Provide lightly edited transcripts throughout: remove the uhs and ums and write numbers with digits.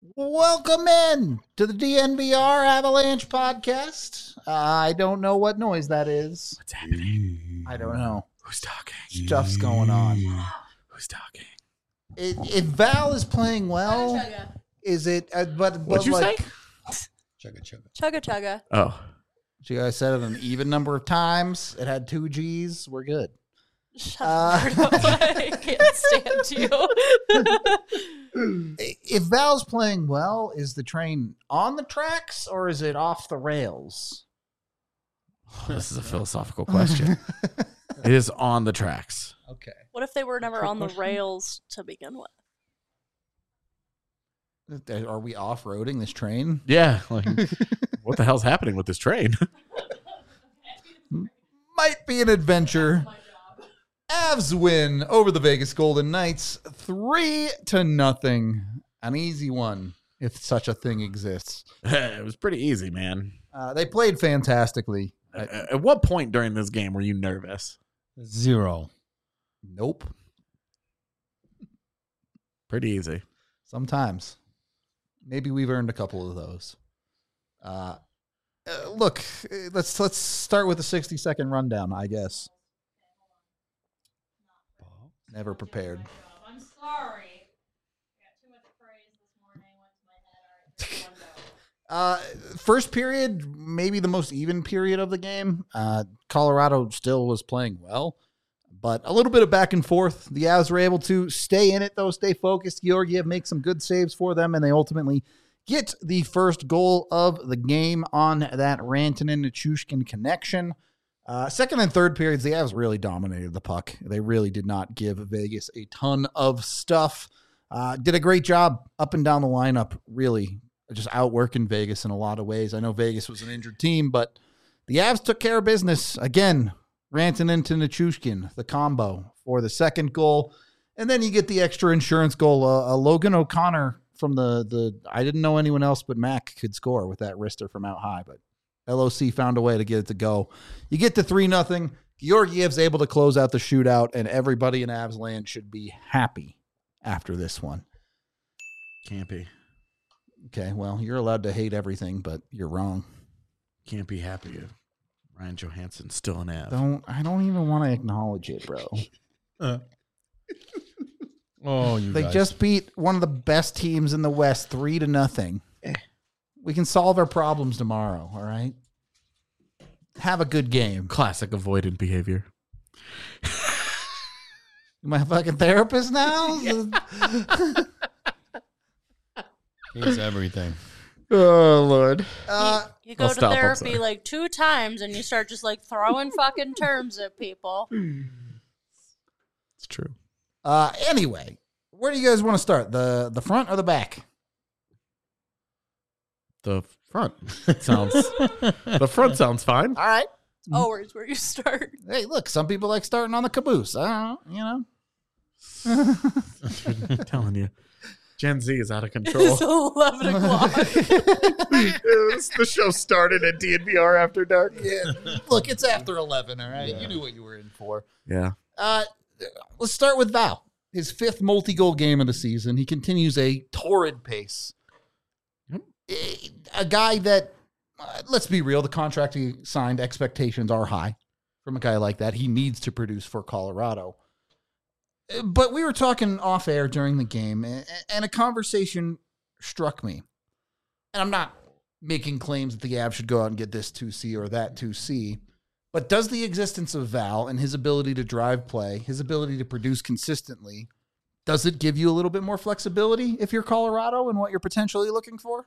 Welcome in to the DNVR Avalanche podcast. I don't know what noise that is. What's happening? I don't know. Who's talking? Stuff's going on. Who's talking? If Val is playing well, is it? But What'd you like, say? Chugga chugga. Oh, so you guys said it an even number of times. It had 2 G's. We're good. Shut up. I can't stand you. If Val's playing well, is the train on the tracks or is it off the rails? this is a philosophical question. It is on the tracks. Okay. What if they were never on the rails to begin with? Are we off-roading this train? Yeah. Like, what the hell's happening with this train? Might be an adventure. Avs win over the Vegas Golden Knights 3-0. An easy one, if such a thing exists. It was pretty easy, man. They played fantastically. At what point during this game were you nervous? 0. Nope. Pretty easy. Sometimes. Maybe we've earned a couple of those. Look, let's start with a 60-second rundown, I guess. Never prepared. I'm sorry. I got too much praise this morning. Went to my head. All right, First period, maybe the most even period of the game. Colorado still was playing well, but a little bit of back and forth. The Avs were able to stay in it, though, stay focused. Georgiev makes some good saves for them, and they ultimately get the first goal of the game on that Rantanen-Nichushkin connection. Second and third periods, the Avs really dominated the puck. They really did not give Vegas a ton of stuff. Did a great job up and down the lineup, really just outworking Vegas in a lot of ways. I know Vegas was an injured team, but the Avs took care of business. Again, Rantanen to Nichushkin, the combo for the second goal. And then you get the extra insurance goal. Logan O'Connor from the I didn't know anyone else but Mac could score with that wrister from out high, but LOC found a way to get it to go. You get to 3-0. Georgiev's able to close out the shootout, and everybody in Avs land should be happy after this one. Can't be. Okay, well, you're allowed to hate everything, but you're wrong. Can't be happy if Ryan Johansson's still an Av. I don't even want to acknowledge it, bro. They guys. just beat one of the best teams in the West 3-0. We can solve our problems tomorrow, all right? Have a good game. Classic avoidant behavior. My fucking therapist now? He's everything. Oh, Lord. You go I'll to stop, I'm therapy sorry. like 2 times and you start just like throwing fucking terms at people. It's true. Anyway, where do you guys want to start? The front or the back? The front sounds fine. All right. Always where you start. Hey, look, some people like starting on the caboose. I don't know, you know. I'm telling you. Gen Z is out of It's control. 11 o'clock. The show started at DNVR After Dark. Yeah. Look, it's after 11, all right? Yeah. You knew what you were in for. Yeah. Let's start with Val. His 5th multi-goal game of the season. He continues a torrid pace. A guy that, let's be real, the contract he signed, expectations are high from a guy like that. He needs to produce for Colorado. But we were talking off air during the game, and a conversation struck me. And I'm not making claims that the Avs should go out and get this 2C or that 2C, but does the existence of Val and his ability to drive play, his ability to produce consistently, does it give you a little bit more flexibility if you're Colorado and what you're potentially looking for?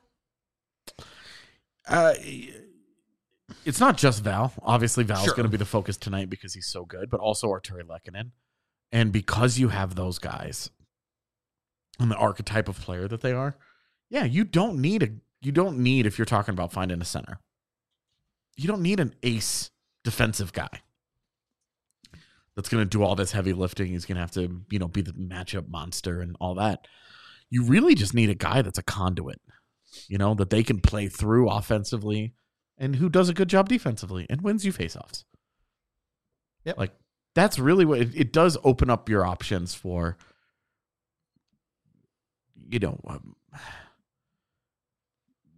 It's not just Val. Obviously, Val's Sure. going to be the focus tonight because he's so good, but also Arturi Lehkonen. And because you have those guys and the archetype of player that they are, yeah, you don't need, if you're talking about finding a center, you don't need an ace defensive guy that's going to do all this heavy lifting. He's going to have to, be the matchup monster and all that. You really just need a guy that's a conduit, that they can play through offensively and who does a good job defensively and wins you faceoffs. Yep. Like, that's really what it does open up your options for,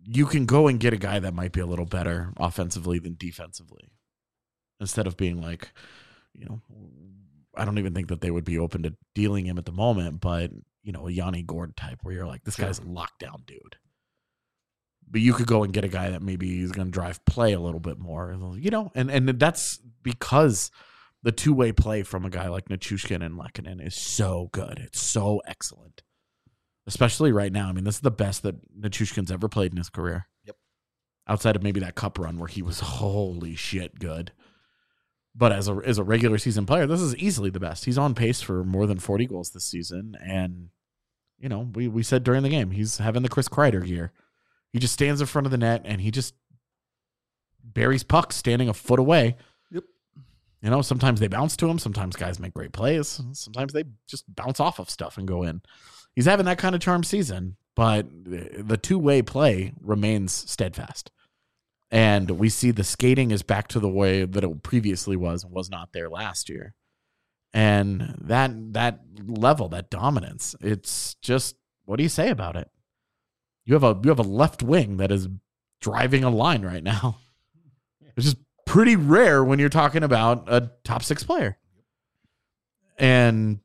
you can go and get a guy that might be a little better offensively than defensively. Instead of being like, I don't even think that they would be open to dealing him at the moment, but, a Yanni Gord type where you're like, this guy's a lockdown dude. But you could go and get a guy that maybe is going to drive play a little bit more, and that's because the two-way play from a guy like Nichushkin and Lehkonen is so good. It's so excellent. Especially right now. I mean, this is the best that Nichushkin's ever played in his career. Yep. Outside of maybe that cup run where he was holy shit good. But as a regular season player, this is easily the best. He's on pace for more than 40 goals this season. And, we said during the game, he's having the Chris Kreider year. He just stands in front of the net and he just buries pucks standing a foot away. Yep. Sometimes they bounce to him. Sometimes guys make great plays. Sometimes they just bounce off of stuff and go in. He's having that kind of charm season, but the two-way play remains steadfast. And we see the skating is back to the way that it previously was not there last year. And that level, that dominance, it's just, what do you say about it? You have a left wing that is driving a line right now. It's just pretty rare when you're talking about a top 6 player. And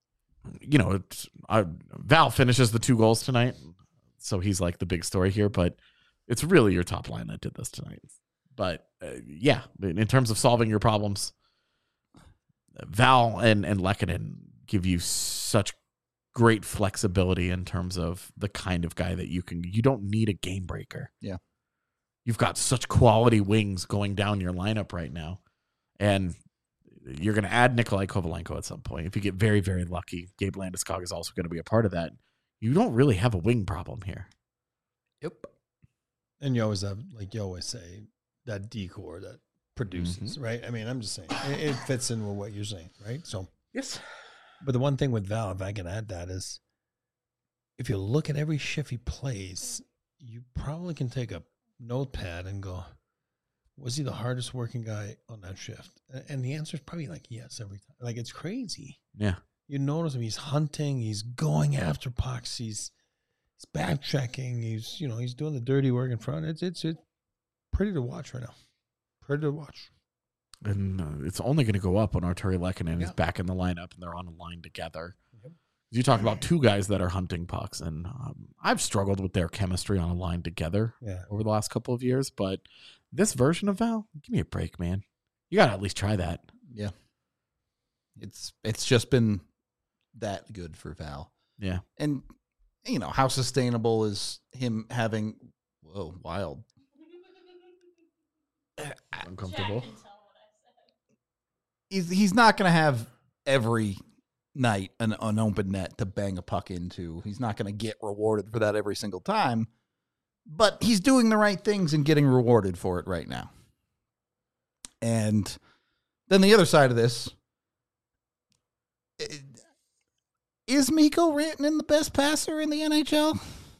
Val finishes the 2 goals tonight, so he's like the big story here. But it's really your top line that did this tonight. But in terms of solving your problems, Val and Lehkonen give you such great flexibility in terms of the kind of guy that you don't need a game breaker. Yeah. You've got such quality wings going down your lineup right now. And you're going to add Nikolai Kovalenko at some point. If you get very, very lucky, Gabe Landeskog is also going to be a part of that. You don't really have a wing problem here. Yep. And you always have, like you always say, that decor that produces, right? I mean, I'm just saying, it fits in with what you're saying, right? So, yes. But the one thing with Val, if I can add that, is if you look at every shift he plays, you probably can take a notepad and go, was he the hardest working guy on that shift? And the answer is probably like yes every time. Like, it's crazy. Yeah. You notice him, he's hunting, he's going after pucks, he's backchecking, he's doing the dirty work in front. It's pretty to watch right now. Pretty to watch. And it's only going to go up when Arturi Lehkonen is back in the lineup and they're on a line together. Yep. You talk about 2 guys that are hunting pucks, and I've struggled with their chemistry on a line together over the last couple of years. But this version of Val, give me a break, man. You got to at least try that. Yeah. It's just been that good for Val. Yeah. And, how sustainable is him having, wild. Uncomfortable. He's not going to have every night an open net to bang a puck into. He's not going to get rewarded for that every single time, but he's doing the right things and getting rewarded for it right now. And then the other side of this, is Mikko Rantanen the best passer in the NHL?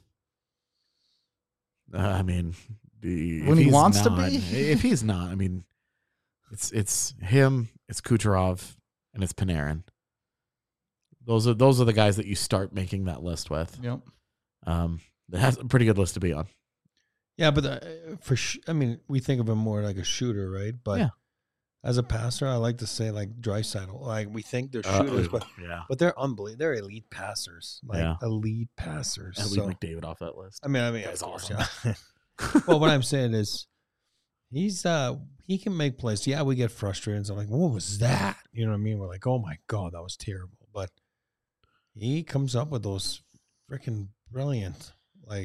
I mean, when he wants to be? If he's not, I mean, it's him, it's Kucherov, and it's Panarin. Those are the guys that you start making that list with. Yep. That has a pretty good list to be on. Yeah, but we think of him more like a shooter, right? But as a passer, I like to say like Draisaitl. Like, we think they're shooters, but they're unbelievable. They're elite passers, elite passers. And leave McDavid off that list. I mean, that's awesome. Yeah. Well, what I'm saying is, he can make plays. Yeah, we get frustrated. So I'm like, what was that? You know what I mean? We're like, oh my God, that was terrible. But he comes up with those freaking brilliant,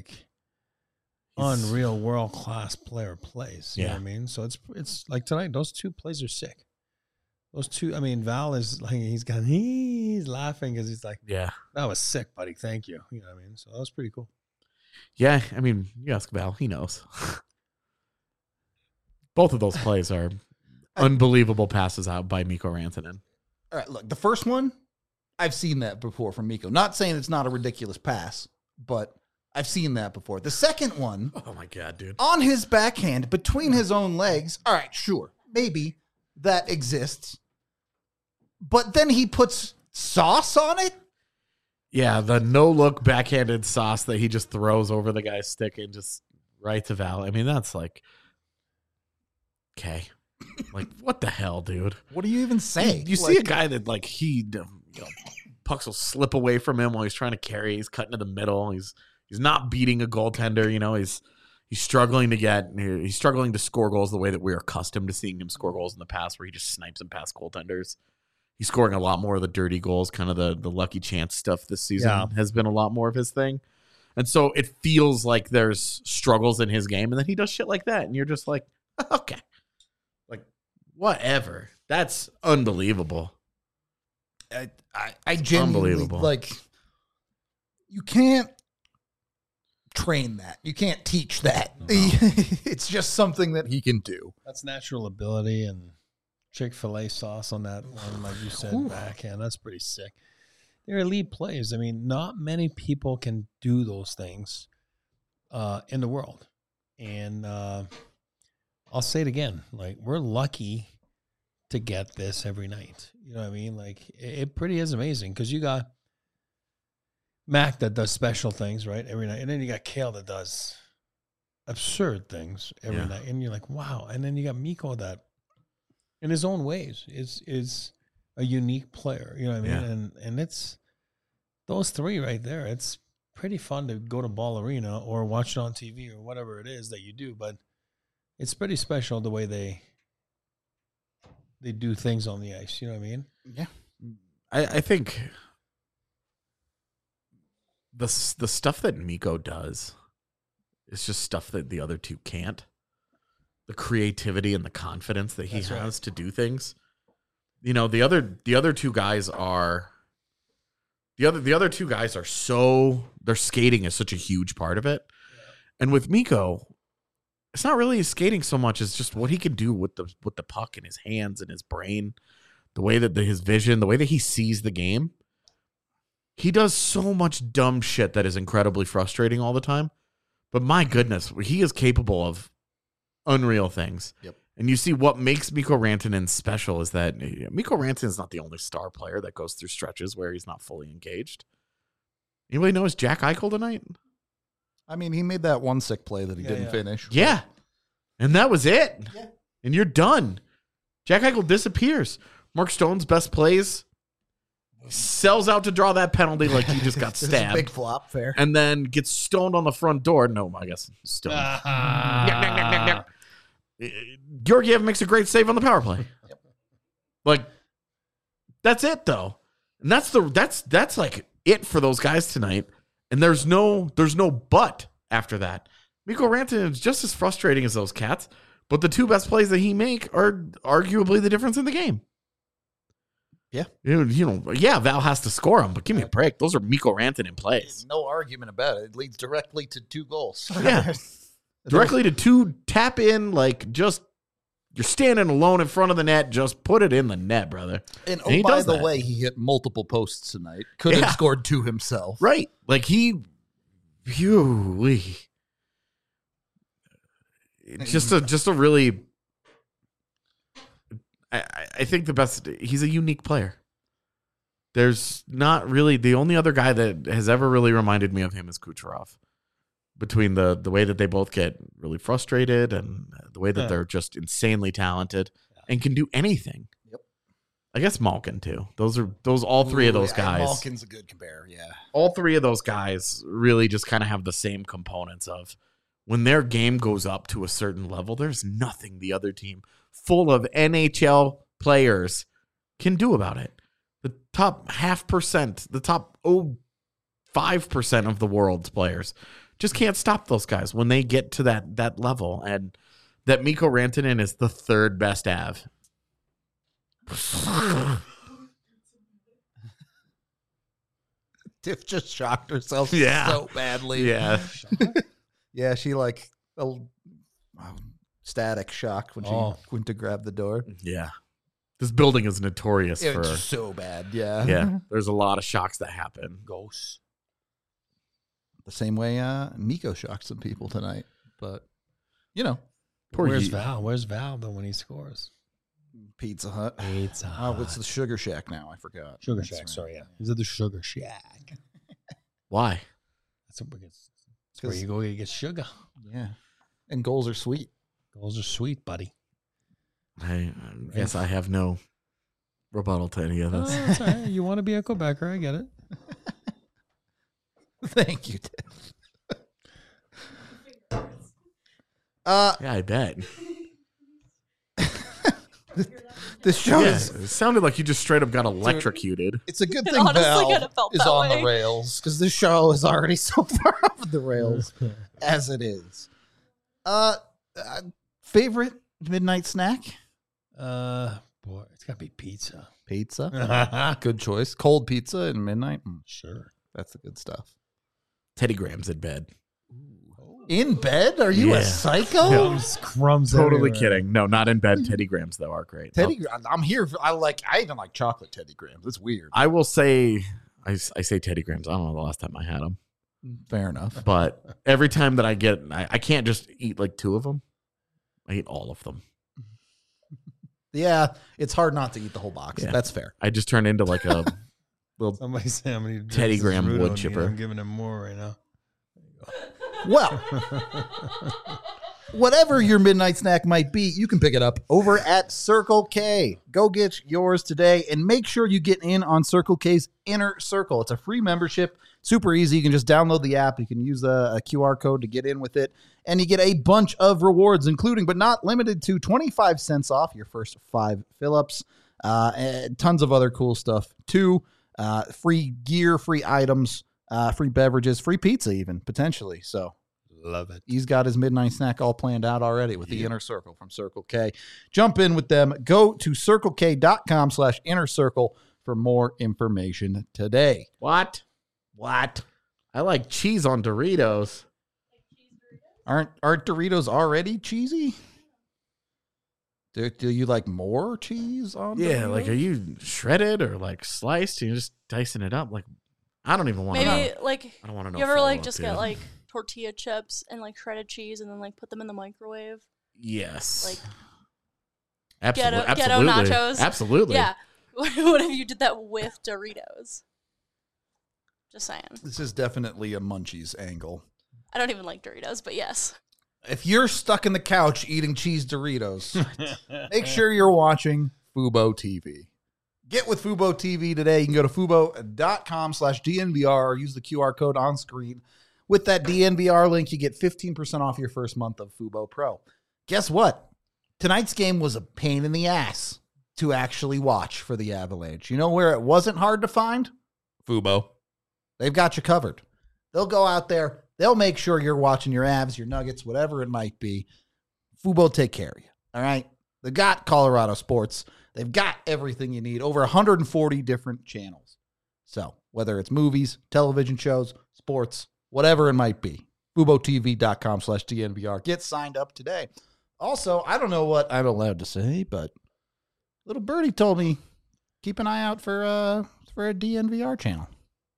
unreal world class player plays. You know what I mean? So it's like tonight, those 2 plays are sick. Those 2, I mean, Val is like, he's laughing because he's like, that was sick, buddy. Thank you. You know what I mean? So that was pretty cool. Yeah, I mean, you ask Val, he knows. Both of those plays are unbelievable passes out by Mikko Rantanen. All right, look, the first one, I've seen that before from Mikko. Not saying it's not a ridiculous pass, but I've seen that before. The second one, oh my God, dude, on his backhand between his own legs. All right, sure, maybe that exists, but then he puts sauce on it. Yeah, the no-look backhanded sauce that he just throws over the guy's stick and just right to Val. I mean, that's like, okay. Like, what the hell, dude? What do you even say? You see a guy that, like, pucks will slip away from him while he's trying to carry. He's cutting to the middle. He's not beating a goaltender. You know, he's struggling to score goals the way that we're accustomed to seeing him score goals in the past, where he just snipes them past goaltenders. He's scoring a lot more of the dirty goals, kind of the lucky chance stuff this season has been a lot more of his thing. And so it feels like there's struggles in his game, and then he does shit like that, and you're just like, okay. Like, whatever. That's unbelievable. I genuinely, unbelievable. Like, you can't train that. You can't teach that. No. It's just something that he can do. That's natural ability, and Chick-fil-A sauce on that one, like you said, backhand. That's pretty sick. They're elite players. I mean, not many people can do those things in the world. And I'll say it again. Like, we're lucky to get this every night. You know what I mean? Like, it pretty is amazing, because you got Mac that does special things, right, every night. And then you got Kale that does absurd things every night. And you're like, wow. And then you got Mikko that, in his own ways, is a unique player. You know what I mean? Yeah. And it's those three right there. It's pretty fun to go to Ball Arena or watch it on TV or whatever it is that you do. But it's pretty special the way they do things on the ice. You know what I mean? Yeah. I think the stuff that Mikko does is just stuff that the other two can't. The creativity and the confidence that he has to do things. You know, the other two guys are so, their skating is such a huge part of it. Yeah. And with Mikko, it's not really his skating so much as just what he can do with the puck in his hands and his brain, the way that his vision, the way that he sees the game. He does so much dumb shit that is incredibly frustrating all the time. But my goodness, he is capable of unreal things. Yep. And you see what makes Mikko Rantanen special is that Mikko Rantanen is not the only star player that goes through stretches where he's not fully engaged. Anybody notice Jack Eichel tonight? I mean, he made that one sick play that he didn't finish. Yeah. And that was it. Yeah. And you're done. Jack Eichel disappears. Mark Stone's best plays, sells out to draw that penalty like he just got stabbed. Big flop, fair. And then gets stoned on the front door. No, I guess stoned. Georgiev makes a great save on the power play. Yep. Like, that's it though. And that's like it for those guys tonight. And there's no but after that. Mikko Rantanen is just as frustrating as those cats, but the two best plays that he make are arguably the difference in the game. Yeah. Val has to score them, but give me a break. Those are Mikko Rantanen plays. No argument about it. It leads directly to 2 goals. Yeah. Directly to 2 tap in, like, just you're standing alone in front of the net, just put it in the net, brother. And by the way, he hit multiple posts tonight. Could have scored 2 himself. Right. Like just a really, I think the best, he's a unique player. There's not really, the only other guy that has ever really reminded me of him is Kucherov. Between the way that they both get really frustrated and the way that they're just insanely talented and can do anything. Yep. I guess Malkin too. All three of those guys. Malkin's a good compare, yeah. All 3 of those guys really just kind of have the same components of when their game goes up to a certain level, there's nothing the other team full of NHL players can do about it. The top 0.5%, the top 5% of the world's players just can't stop those guys when they get to that level. And that Mikko Rantanen is the 3rd best Av. Tiff just shocked herself so badly. Yeah. Yeah, she static shocked when she went to grab the door. Yeah. This building is notorious for so bad. Yeah. Yeah. There's a lot of shocks that happen. Ghosts. The same way Mikko shocked some people tonight. But, Where's Val? Where's Val, though, when he scores? Pizza Hut. Oh, it's the Sugar Shack now. I forgot. Sugar Shack, right. Sorry, yeah. He's at the Sugar Shack. Why? That's where you go to get sugar. Yeah. And goals are sweet. Goals are sweet, buddy. I guess I have no rebuttal to any of Oh, this. that's all right. You want to be a Quebecer. I get it. Thank you, Dave. Yeah, I bet. This show Yeah, is it sounded like you just straight up got electrocuted. it's a good It thing honestly Val kinda felt is that on way. the rails because this show is already so far off the rails as it is. Favorite midnight snack? Boy, it's got to be pizza. Pizza. Good choice. Cold pizza at midnight. Sure. That's the good stuff. Teddy Grahams in bed. In bed? Are you Yeah. a psycho? Crumbs Totally everywhere. kidding. No, not in bed. Teddy Grahams though are great. Teddy, I'm here. I even like chocolate Teddy Grahams. It's weird. I will say, I say Teddy Grahams. I don't know the last time I had them, Fair enough. but every time that I get, I can't just eat like 2 of them. I eat all of them. Yeah, it's hard not to eat the whole box. Yeah. That's fair. I just turn into like a little. Somebody say how many Teddy doses Graham Rudo wood need. chipper. I'm giving him more right now. Well, whatever your midnight snack might be, you can pick it up over at Circle K. Go get yours today and make sure you get in on Circle K's Inner Circle. It's a free membership, super easy. You can just download the app. You can use a QR code to get in with it, and you get a bunch of rewards, including but not limited to 25 cents off your first 5 fill-ups, and tons of other cool stuff too. Free gear, free items, free beverages, free pizza even, potentially. So Love it. he's got his midnight snack all planned out already with the Inner Circle from Circle K. Jump in with them. Go to circlek.com/inner circle for more information today. What? I like cheese on Doritos. Aren't Doritos already cheesy? Do you like more cheese on Yeah, Doritos? like are you shredded or like sliced? You're just dicing it up. Like I don't even want to Maybe know. like I don't want to know. you ever like follow-up, just dude. get like tortilla chips and like shredded cheese and then like put them in the microwave. Yes. Like Absolutely. ghetto Absolutely. nachos. Absolutely. Yeah. What if you did that with Doritos? Just saying. This is definitely a Munchies angle. I don't even like Doritos, but yes. If you're stuck in the couch eating cheese Doritos, make sure you're watching Fubo TV. Get with Fubo TV today. You can go to fubo.com/DNVR or use the QR code on screen. With that DNVR link, you get 15% off your first month of Fubo Pro. Guess what? Tonight's game was a pain in the ass to actually watch for the Avalanche. You know where it wasn't hard to find? Fubo. They've got you covered. They'll go out there. They'll make sure you're watching your Avs, your Nuggets, whatever it might be. Fubo take care of you. All right? They've got Colorado sports. They've got everything you need. Over 140 different channels. So whether it's movies, television shows, sports, whatever it might be. FuboTV.com/DNVR. Get signed up today. Also, I don't know what I'm allowed to say, but little birdie told me keep an eye out for a DNVR channel.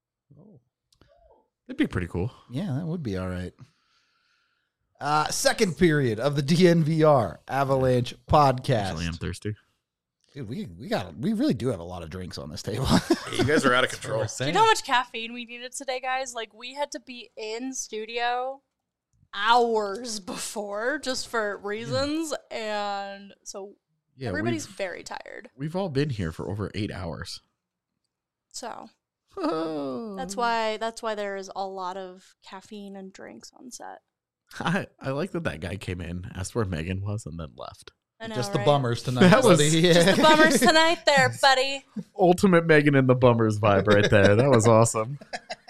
It'd be pretty cool. Yeah, that would be all right. Second period of the DNVR Avalanche podcast. Actually, I'm thirsty. Dude, we really do have a lot of drinks on this table. You guys are out of control. Do you know how much caffeine we needed today, guys? Like, we had to be in studio hours before just for reasons. And so Yeah, everybody's very tired. we've all been here for over 8 hours. So that's why there is a lot of caffeine and drinks on set. I like that guy came in, asked where Megan was, and then left. I know, Just the right? bummers tonight. That was- buddy. Just the bummers tonight there, buddy. Ultimate Megan and the Bummers vibe right there. That was awesome.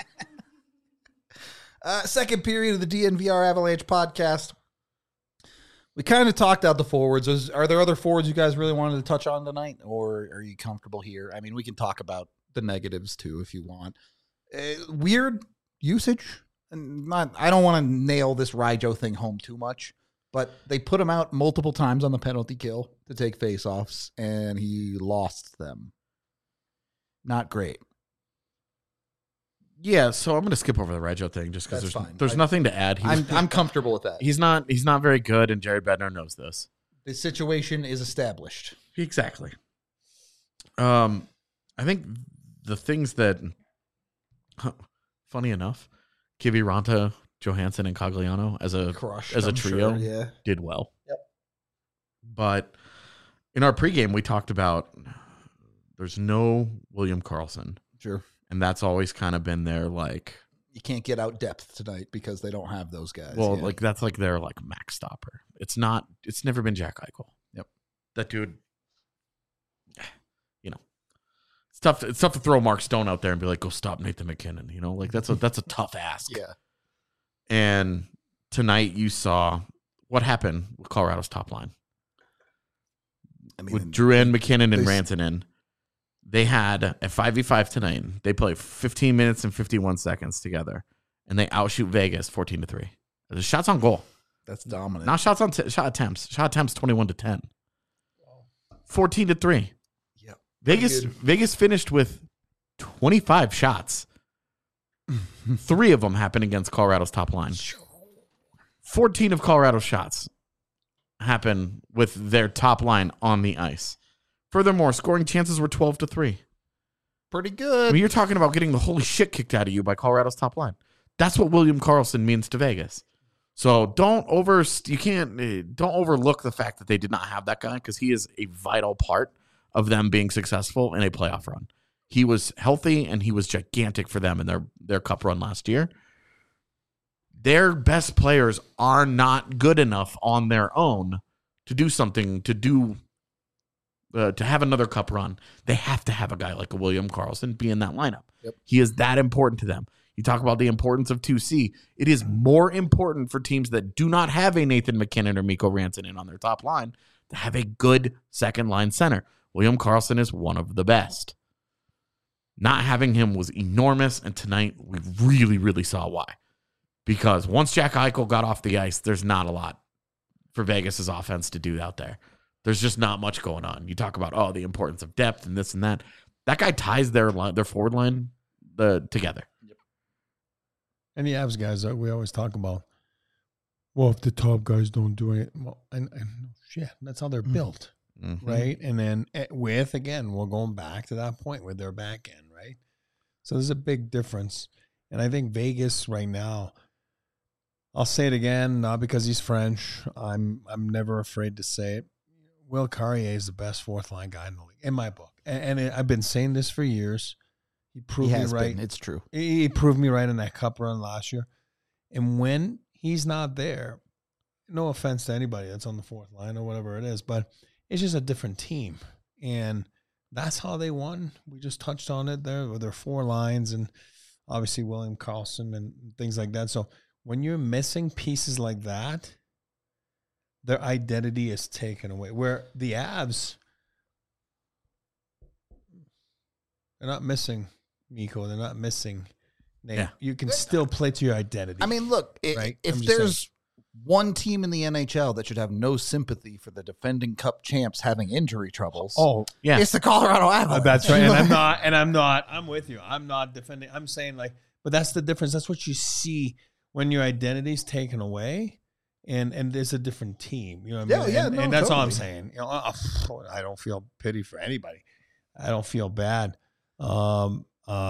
Second period of the DNVR Avalanche podcast. We kind of talked out the forwards. Are there other forwards you guys really wanted to touch on tonight, or are you comfortable here? I mean, we can talk about the negatives too if you want. Weird usage. And I don't want to nail this Rijo thing home too much, but they put him out multiple times on the penalty kill to take faceoffs, and he lost them. Not great. Yeah, so I'm going to skip over the Reggio thing just because That's fine. there's nothing to add. I'm comfortable with that. He's not very good, and Jared Bednar knows this. The situation is established. Exactly. I think the things that, funny enough, Kiviranta Johansson and Cogliano as a Crushed, as a I'm trio sure, yeah. did well. Yep. But in our pregame, we talked about there's no William Karlsson, Sure. and that's always kind of been their like. You can't get out depth tonight because they don't have those guys. Well, yeah. like that's like their like max stopper. It's not. It's never been Jack Eichel. Yep. That dude. You know, it's tough. It's tough to throw Mark Stone out there and be like, "Go stop Nathan McKinnon." You know, like that's a tough ask. Yeah. And tonight you saw what happened with Colorado's top line I mean, with Drouin, McKinnon, and they- Rantanen. They had a 5v5 tonight. They played 15 minutes and 51 seconds together, and they outshoot Vegas 14-3. The shots on goal. that's dominant. Not shots on shot attempts. Shot attempts 21-10. 14-3. Yep. Vegas good. Vegas finished with 25 shots. 3 of them happened against Colorado's top line. 14 of Colorado's shots happen with their top line on the ice. Furthermore, scoring chances were 12-3. Pretty I good. mean, you're talking about getting the holy shit kicked out of you by Colorado's top line. That's what William Karlsson means to Vegas. So don't overlook the fact that they did not have that guy, because he is a vital part of them being successful in a playoff run. He was healthy and he was gigantic for them in their cup run last year. Their best players are not good enough on their own to do something, to have another cup run. They have to have a guy like a William Karlsson be in that lineup. Yep. He is that important to them. You talk about the importance of 2C. It is more important for teams that do not have a Nathan McKinnon or Mikko Rantanen on their top line to have a good second line center. William Karlsson is one of the best. Not having him was enormous, and tonight we really, really saw why. Because once Jack Eichel got off the ice, there's not a lot for Vegas' offense to do out there. There's just not much going on. You talk about, the importance of depth and this and that. That guy ties their forward line together. And the Avs guys, we always talk about, well, if the top guys don't do it, well, and shit, that's how they're built, Mm-hmm. right? And then again, we're going back to that point with their back end, right? So there's a big difference. And I think Vegas right now, I'll say it again, not because he's French. I'm never afraid to say it. Will Carrier is the best fourth line guy in the league, in my book. And I've been saying this for years. He proved me right. It's true. He proved me right in that cup run last year. And when he's not there, no offense to anybody that's on the fourth line or whatever it is, but it's just a different team. And that's how they won. We just touched on it there with their 4 lines and obviously William Karlsson and things like that. So when you're missing pieces like that, their identity is taken away. Where the Avs, they're not missing Mikko. They're not missing Nate. Yeah. You can still play to your identity. I mean, look, Right? if I'm just there's one team in the NHL that should have no sympathy for the defending Cup champs having injury troubles, Yeah. it's the Colorado Avalanche. that's right. I'm with you. I'm not defending. I'm saying but that's the difference. That's what you see when your identity's taken away and there's a different team. You know what I mean? And that's all I'm saying. You know, I don't feel pity for anybody. I don't feel bad. I'm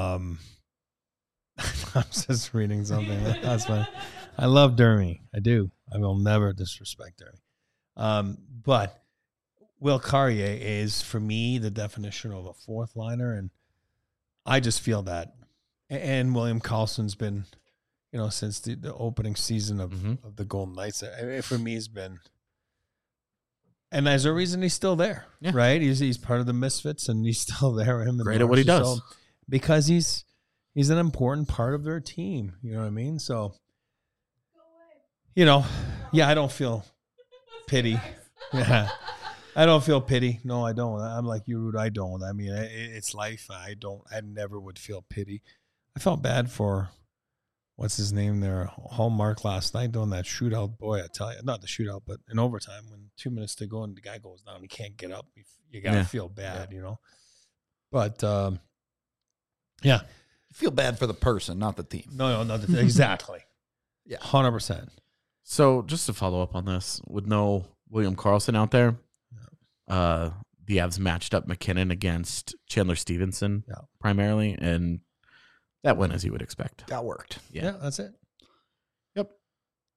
just reading something. That's fine. I love Dermy. I do. I will never disrespect Dermy. But Will Carrier is, for me, the definition of a fourth liner. And I just feel that. And William Karlsson's been, since the opening season of the Golden Knights, for me, has been. And there's a reason he's still there, right? He's part of the Misfits, and he's still there. Great at what he does. Because he's an important part of their team. You know what I mean? So, I don't feel pity. Yeah. I don't feel pity. No, I don't. I'm like you, Rude. I don't. I mean, it's life. I never would feel pity. I felt bad for, what's his name there, Hallmark last night doing that shootout. Boy, I tell you, not the shootout, but in overtime when 2 minutes to go and the guy goes down, he can't get up. You got to feel bad, But, yeah. Feel bad for the person, not the team. No, not the exactly. Yeah. 100%. So just to follow up on this, with no William Karlsson out there, the Avs matched up McKinnon against Chandler Stevenson primarily, and that went as you would expect. That worked. Yeah, that's it. Yep.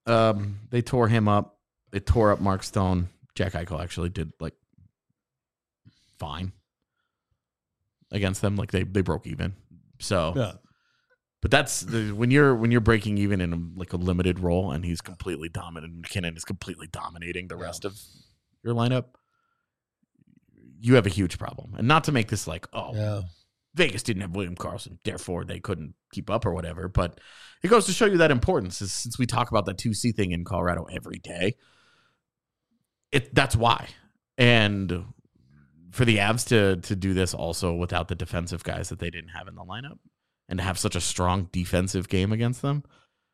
They tore him up. They tore up Mark Stone. Jack Eichel actually did like fine against them. Like they broke even. So, Yeah. but that's when you're breaking even in a limited role, and he's completely dominant. McKinnon is completely dominating the rest of your lineup. You have a huge problem, and not to make this like, Vegas didn't have William Karlsson, therefore they couldn't keep up or whatever. But it goes to show you that importance. Since we talk about that 2C thing in Colorado every day, that's why. And for the Avs to do this also without the defensive guys that they didn't have in the lineup, and to have such a strong defensive game against them,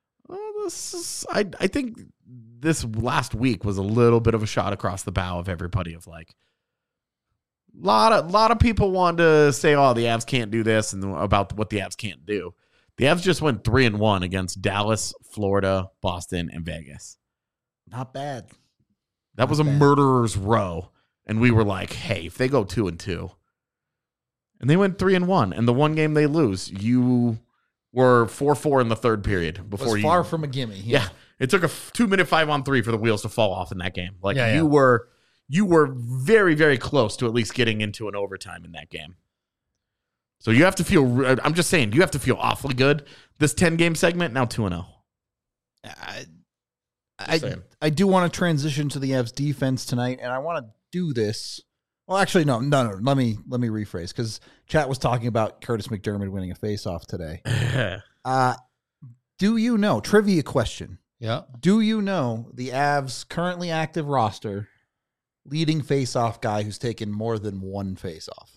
I think this last week was a little bit of a shot across the bow of everybody of like, lot of people want to say, oh, the Avs can't do this, and about what the Avs can't do. The Avs just went 3-1 against Dallas, Florida, Boston, and Vegas. Not bad. That was a murderer's row. And we were like, hey, if they go 2-2, and they went 3-1, and the one game they lose, you were 4-4 in the third period before was far from a gimme. Yeah. It took a 2-minute 5-on-3 for the wheels to fall off in that game. Like Yeah, you were very, very close to at least getting into an overtime in that game. So you have to feel, I'm just saying, you have to feel awfully good. This 10-game segment, now 2-0. I do want to transition to the Avs defense tonight, and I want to do this. Well, actually, no. Let me rephrase, because chat was talking about Curtis McDermott winning a faceoff today. Do you know, trivia question, Yeah. do you know the Avs currently active roster leading faceoff guy who's taken more than one faceoff?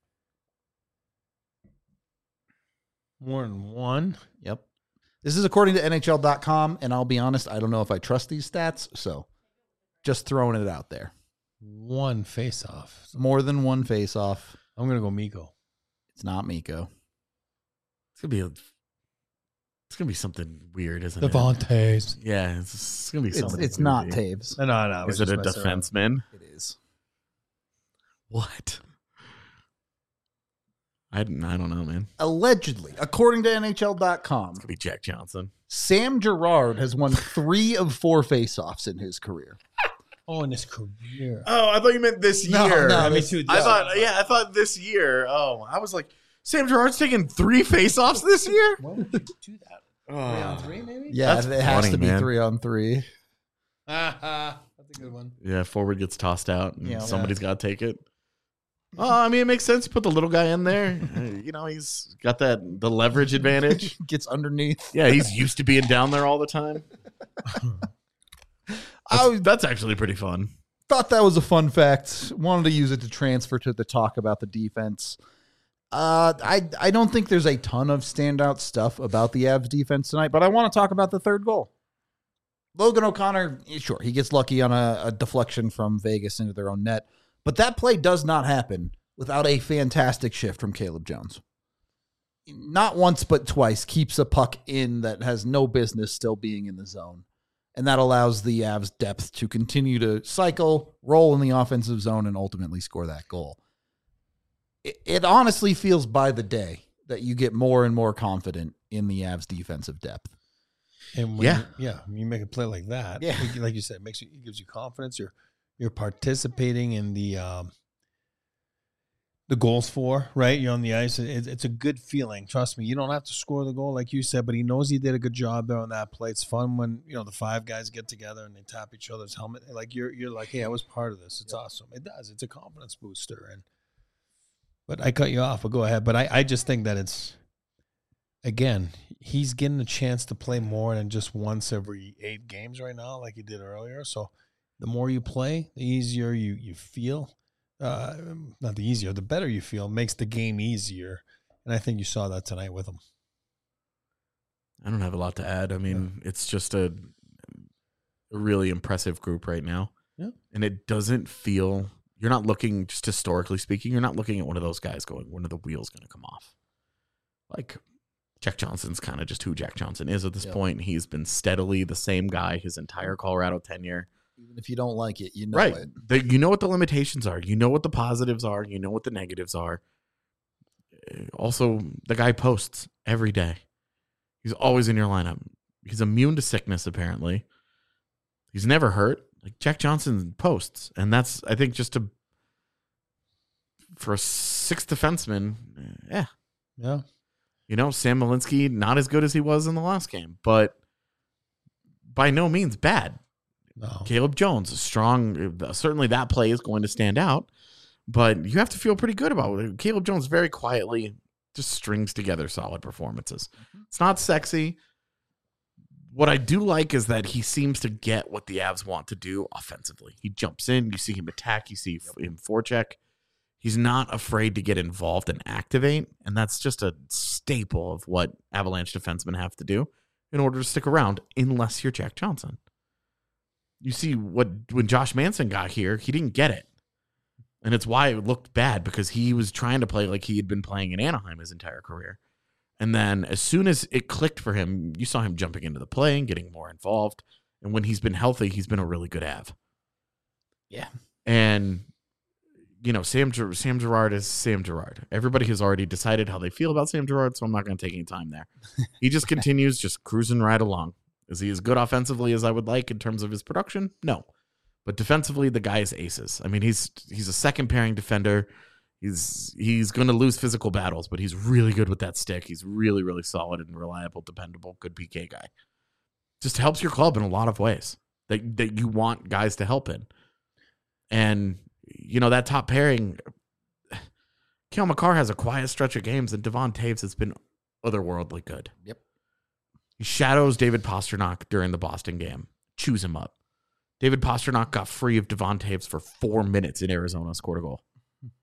More than one. Yep. This is according to NHL.com, and I'll be honest, I don't know if I trust these stats, so just throwing it out there. One face-off. More than one faceoff. I'm going to go Mikko. It's not Mikko. It's gonna be something weird, isn't Devontae's. it? Yeah, it's gonna be something. It's not crazy. Taves. No. Is it a defenseman? It is. What? I don't know, man. Allegedly, according to NHL.com, It's gonna be Jack Johnson. Sam Girard has won 3 of 4 faceoffs in his career. Oh, in his career. Oh, I thought you meant this No, year. no, me too. I thought this year. Oh, I was like, Sam Girard's taking 3 faceoffs this year. When would you do that? Oh. 3 maybe? Yeah, That's it has funny, to be man. 3-on-3. That's a good one. Yeah, forward gets tossed out, and Yeah. somebody's got to take it. Oh, I mean, it makes sense. You put the little guy in there. He's got the leverage advantage. Gets underneath. Yeah, he's used to being down there all the time. That's actually pretty fun. Thought that was a fun fact. Wanted to use it to transfer to the talk about the defense. I don't think there's a ton of standout stuff about the Avs defense tonight, but I want to talk about the third goal. Logan O'Connor, sure, he gets lucky on a deflection from Vegas into their own net, but that play does not happen without a fantastic shift from Caleb Jones. Not once, but twice, keeps a puck in that has no business still being in the zone. And that allows the Avs depth to continue to cycle, roll in the offensive zone, and ultimately score that goal. It honestly feels by the day that you get more and more confident in the Avs defensive depth. And when you make a play like that, Yeah. like you said, it gives you confidence. You're participating in the goals for, right? You're on the ice. It's a good feeling. Trust me. You don't have to score the goal like you said, but he knows he did a good job there on that play. It's fun when, the 5 guys get together and they tap each other's helmet. Like you're like, hey, I was part of this. It's awesome. It does. It's a confidence booster. But I cut you off. But go ahead. But I just think that it's, again, he's getting a chance to play more than just once every 8 games right now, like he did earlier. So the more you play, the easier you feel. Not the easier, the better you feel. Makes the game easier. And I think you saw that tonight with him. I don't have a lot to add. I mean, it's just a really impressive group right now. Yeah. And it doesn't feel, you're not looking, just historically speaking, you're not looking at one of those guys going, when are the wheels going to come off? Like, Jack Johnson's kind of just who Jack Johnson is at this point. He's been steadily the same guy his entire Colorado tenure. Even if you don't like it, you know Right. it. You know what the limitations are. You know what the positives are. You know what the negatives are. Also, the guy posts every day. He's always in your lineup. He's immune to sickness, apparently. He's never hurt. Like Jack Johnson posts, and that's I think just for a sixth defenseman, yeah. Sam Malinsky not as good as he was in the last game, but by no means bad. No. Caleb Jones is strong. Certainly that play is going to stand out, but you have to feel pretty good about it. Caleb Jones very quietly just strings together solid performances. It's not sexy. What I do like is that he seems to get what the Avs want to do offensively. He jumps in, you see him attack, you see him forecheck. He's not afraid to get involved and activate, and that's just a staple of what Avalanche defensemen have to do in order to stick around, unless you're Jack Johnson. You see when Josh Manson got here, he didn't get it. And it's why it looked bad, because he was trying to play like he had been playing in Anaheim his entire career. And then as soon as it clicked for him, you saw him jumping into the play and getting more involved. And when he's been healthy, he's been a really good Av. Yeah. And, Sam Girard is Sam Girard. Everybody has already decided how they feel about Sam Girard, so I'm not going to take any time there. He just continues just cruising right along. Is he as good offensively as I would like in terms of his production? No. But defensively, the guy is aces. I mean, he's a second pairing defender. He's going to lose physical battles, but he's really good with that stick. He's really, really solid and reliable, dependable, good PK guy. Just helps your club in a lot of ways that you want guys to help in. And, that top pairing, Cale Makar has a quiet stretch of games, and Devon Toews has been otherworldly good. Yep. He shadows David Pastrnak during the Boston game. Chews him up. David Pastrnak got free of Devon Toews for 4 minutes in Arizona, scored a goal.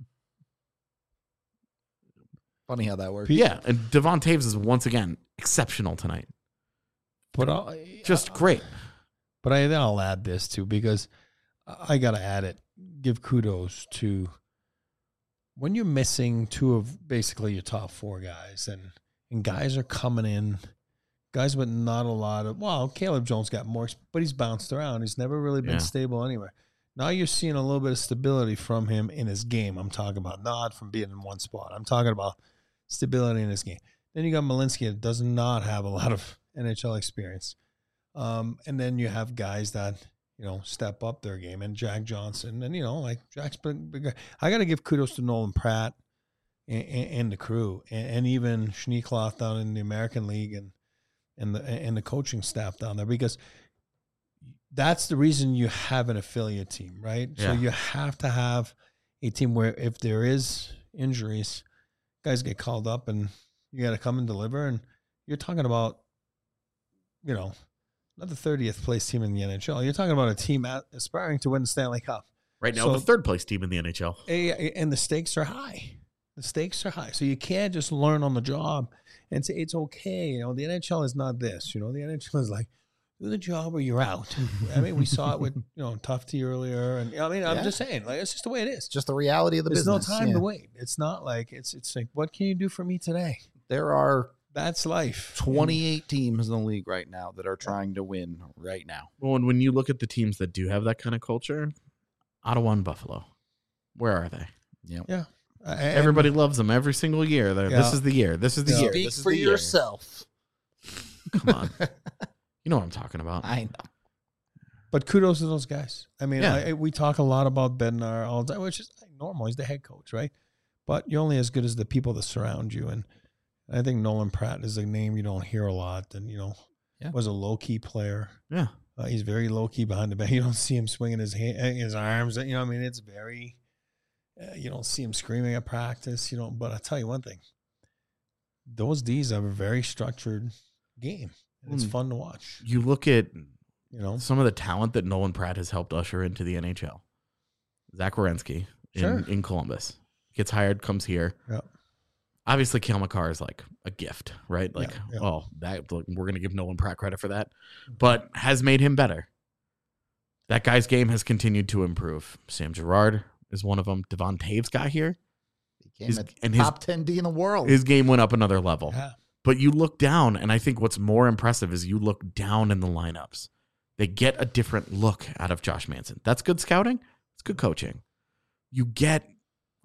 Funny how that works. Yeah, and Devon Toews is once again exceptional tonight. But just great. But I'll add this too, because I got to add it. Give kudos to when you're missing two of basically your top four guys, and guys are coming in, guys with not a lot of, Caleb Jones got more, but he's bounced around. He's never really been stable anywhere. Now you're seeing a little bit of stability from him in his game. I'm talking about not from being in one spot. I'm talking about stability in his game. Then you got Malinsky that does not have a lot of NHL experience. And then you have guys that, step up their game, and Jack Johnson. And, like Jack's big. I got to give kudos to Nolan Pratt and the crew, and even Schneekloth down in the American League and the coaching staff down there, because that's the reason you have an affiliate team, right? Yeah. So you have to have a team where if there is injuries, guys get called up and you got to come and deliver. And you're talking about, not the 30th place team in the NHL. You're talking about a team aspiring to win the Stanley Cup. Right now, the third place team in the NHL. And the stakes are high. So you can't just learn on the job and say it's okay. The NHL is not this. The NHL is like, do the job or you're out. I mean, we saw it with, Tufte earlier. And I'm just saying, like, it's just the way it is. Just the reality of the business. There's no time to wait. It's not like, it's like, what can you do for me today? That's life. 28 teams in the league right now that are trying to win right now. Well, and when you look at the teams that do have that kind of culture, Ottawa and Buffalo, where are they? Yeah. Everybody loves them every single year. This is the year. This is the year. Speak for yourself. Come on. You know what I'm talking about. I know. But kudos to those guys. I mean, we talk a lot about Bednar all the time, which is normal. He's the head coach, right? But you're only as good as the people that surround you. And I think Nolan Pratt is a name you don't hear a lot. And, was a low-key player. Yeah. He's very low-key behind the back. You don't see him swinging his arms. It's very, you don't see him screaming at practice. But I'll tell you one thing. Those Ds have a very structured game. And it's fun to watch. You look at, some of the talent that Nolan Pratt has helped usher into the NHL. Zach Werenski in Columbus. Gets hired, comes here. Yep. Obviously, Cale Makar is like a gift, right? Like, we're going to give Nolan Pratt credit for that, but has made him better. That guy's game has continued to improve. Sam Girard is one of them. Devon Toews got here. He became top 10 D in the world. His game went up another level. Yeah. But you look down, and I think what's more impressive is you look down in the lineups. They get a different look out of Josh Manson. That's good scouting. It's good coaching. You get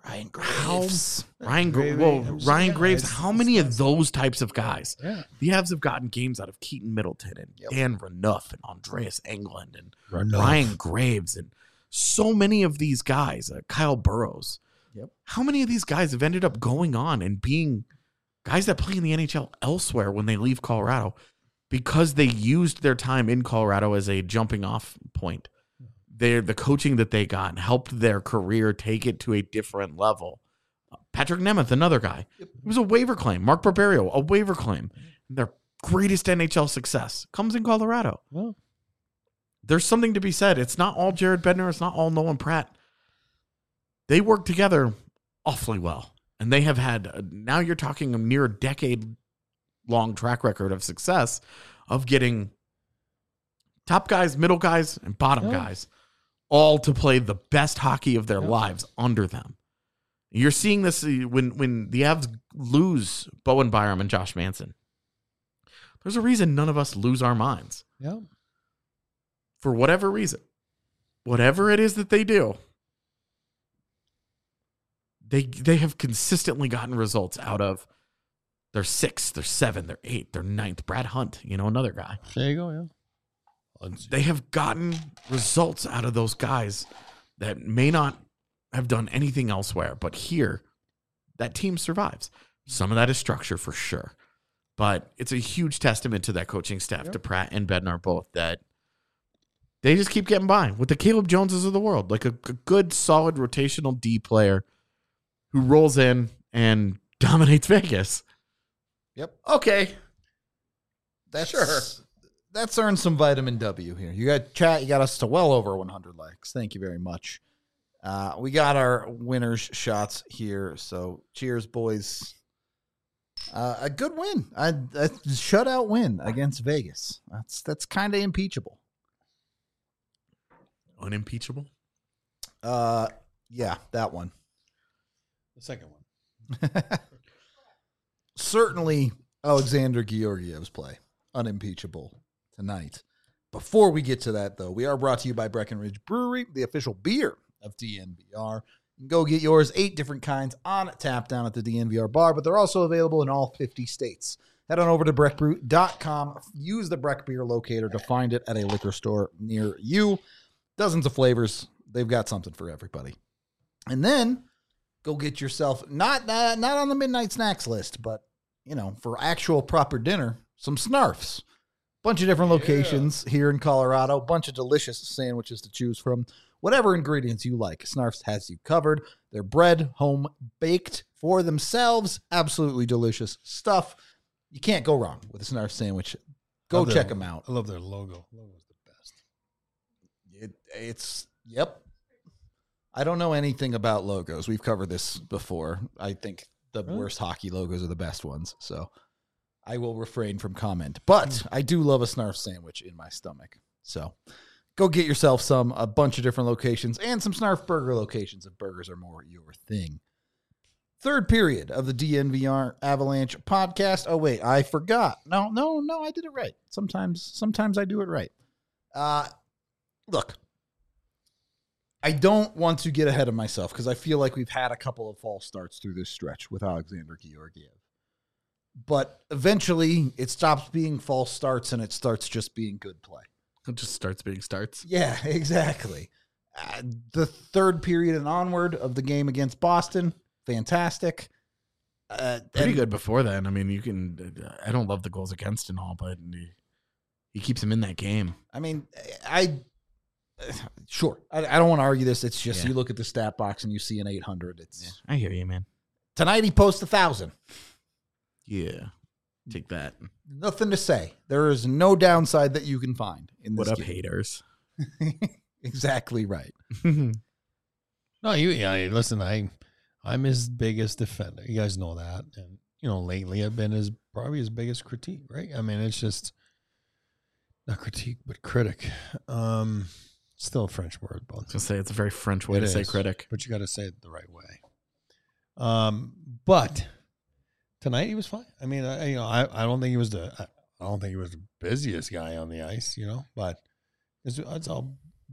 Ryan Graves. Ryan Graves. How many of those types of guys? Yeah. The Avs have gotten games out of Keaton Middleton and Dan Renouf and Andreas Englund and Renouf. Ryan Graves and so many of these guys. Kyle Burrows. Yep. How many of these guys have ended up going on and being guys that play in the NHL elsewhere when they leave Colorado because they used their time in Colorado as a jumping off point? The coaching that they got helped their career take it to a different level. Patrick Nemeth, another guy. It was a waiver claim. Mark Barberio, a waiver claim. Their greatest NHL success comes in Colorado. Well, There's something to be said. It's not all Jared Bednar. It's not all Nolan Pratt. They work together awfully well. And they have had, now you're talking a near decade-long track record of success of getting top guys, middle guys, and bottom guys all to play the best hockey of their lives under them. You're seeing this when the Avs lose Bowen Byram and Josh Manson. There's a reason none of us lose our minds. yeah. For whatever reason. Whatever it is that they do, they have consistently gotten results out of their 6th, their 7th, their 8th, their 9th. Brad Hunt, another guy. There you go, yeah. They have gotten results out of those guys that may not have done anything elsewhere, but here, that team survives. Some of that is structure for sure, but it's a huge testament to that coaching staff, to Pratt and Bednar both, that they just keep getting by with the Caleb Joneses of the world, like a good, solid rotational D player who rolls in and dominates Vegas. Yep. Okay. That's Sure. That's earned some vitamin W here. You got chat. You got us to well over 100 likes. Thank you very much. We got our winners shots here. So cheers, boys. A good win. A shutout win against Vegas. That's kind of impeachable. Unimpeachable? Yeah, that one. The second one. Certainly Alexander Georgiev's play. Unimpeachable tonight. Before we get to that, though, we are brought to you by Breckenridge Brewery, the official beer of DNVR. You can go get yours, 8 different kinds on tap down at the DNVR bar, but they're also available in all 50 states. Head on over to breckbrew.com. Use the Breck Beer locator to find it at a liquor store near you. Dozens of flavors. They've got something for everybody. And then go get yourself, not on the midnight snacks list, but, for actual proper dinner, some Snarfs. Bunch of different locations here in Colorado. Bunch of delicious sandwiches to choose from. Whatever ingredients you like, Snarfs has you covered. They're bread, home baked for themselves. Absolutely delicious stuff. You can't go wrong with a Snarf sandwich. Go check them out. I love their logo. Logo's the best. It's yep. I don't know anything about logos. We've covered this before. I think the worst hockey logos are the best ones. So I will refrain from comment. But I do love a Snarf sandwich in my stomach. So go get yourself a bunch of different locations, and some Snarf burger locations if burgers are more your thing. Third period of the DNVR Avalanche podcast. Oh, wait, I forgot. No, I did it right. Sometimes I do it right. Look, I don't want to get ahead of myself because I feel like we've had a couple of false starts through this stretch with Alexander Georgiev. But eventually it stops being false starts and it starts just being good play. It just starts being starts. Yeah, exactly. The third period and onward of the game against Boston, fantastic. Pretty good before then. I mean, I don't love the goals against and all, but he keeps him in that game. I mean, sure. I don't want to argue this. It's just you look at the stat box and you see an 800. I hear you, man. Tonight he posts 1,000. Yeah. Take that. Nothing to say. There is no downside that you can find in this What up, game. haters? Exactly right. No, listen, I'm his biggest defender. You guys know that. And, lately I've been probably his biggest critique, right? I mean, it's just not critique, but critic. Still a French word, but I was going to say it's a very French way to say critic. But you got to say it the right way. But tonight he was fine. I mean, I don't think he was the busiest guy on the ice, but it's all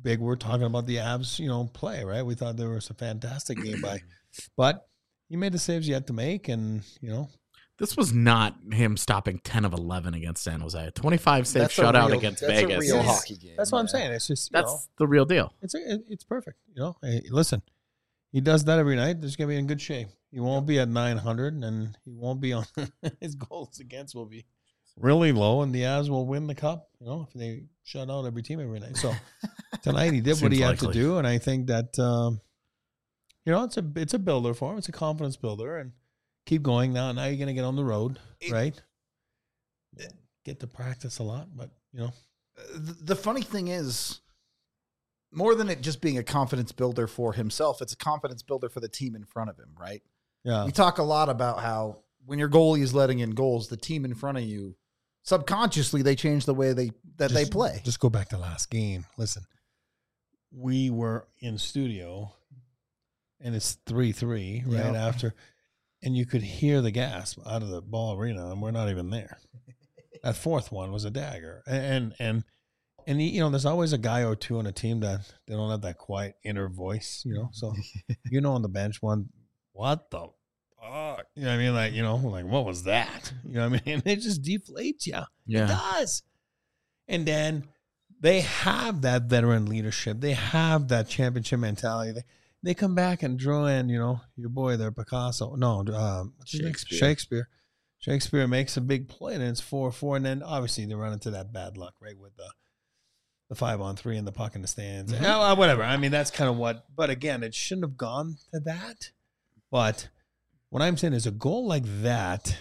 big we're talking about the Avs, play, right? We thought there was a fantastic game but he made the saves he had to make, and This was not him stopping 10 of 11 against San Jose. 25 save That's a shutout real- against that's Vegas. a real is- hockey game. that's what I'm saying. It's just That's the real deal. it's perfect. Hey, listen, he does that every night. There's gonna be in good shape. He won't be at 900, and he won't be on his goals against will be really low, and the Avs will win the cup. If they shut out every team every night. So tonight he did what Seems he had to likely. do, and I think that it's a builder for him. It's a confidence builder, and keep going now. Now you're gonna get on the road, right? Get to practice a lot, but The funny thing is, more than it just being a confidence builder for himself, it's a confidence builder for the team in front of him, right? yeah, We talk a lot about how when your goalie is letting in goals, the team in front of you, subconsciously, they change the way they play. Just go back to last game. Listen, we were in studio, and it's 3-3 right Yeah. after, and you could hear the gasp out of the ball arena, and we're not even there. That fourth one was a dagger, and there's always a guy or two on a team that they don't have that quiet inner voice, So on the bench one, what the fuck? You know what I mean? Like what was that? You know what I mean? It just deflates you. It Yeah. does. And then they have that veteran leadership. They have that championship mentality. They come back and draw in, your boy there, Picasso. No, what's his name? Shakespeare makes a big play, and it's 4-4. And then obviously they run into that bad luck, right, with the 5-on-3 and the puck in the stands. Mm-hmm. Whatever. I mean, that's kind of what. But again, it shouldn't have gone to that. But what I'm saying is a goal like that.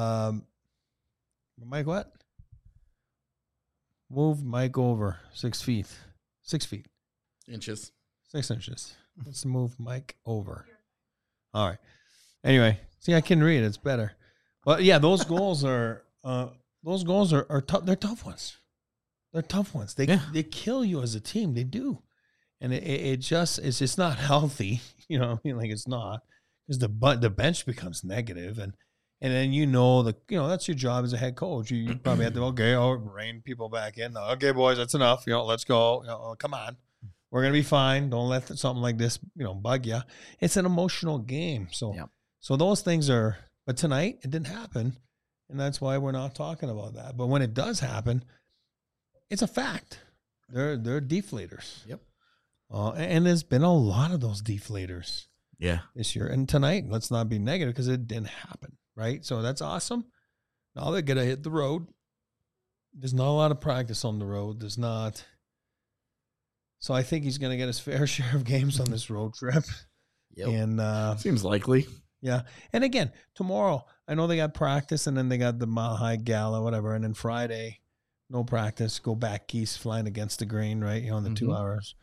Mike, what? Move Mike over 6 feet. 6 feet. Inches. 6 inches. Let's move Mike over. All right. Anyway, see, I can read. It's better. But yeah, those goals are tough. They're tough ones. They're tough ones. They kill you as a team. They do, and it's just not healthy. It's not, because the bench becomes negative, and then that's your job as a head coach. You probably have to rein people back in. Okay, boys, that's enough. Let's go. Come on. We're going to be fine. Don't let something like this, bug you. It's an emotional game. So, So those things are, but tonight it didn't happen. And that's why we're not talking about that. But when it does happen, it's a fact. They're deflators. Yep. And there's been a lot of those deflators this year. And tonight, let's not be negative, because it didn't happen. Right. So that's awesome. Now they're going to hit the road. There's not a lot of practice on the road. There's not. So I think he's going to get his fair share of games on this road trip. Yep. And Seems likely. yeah. And again, tomorrow, I know they got practice, and then they got the Mile High Gala, whatever. And then Friday, no practice, go back east, flying against the grain, right? In the 2 hours.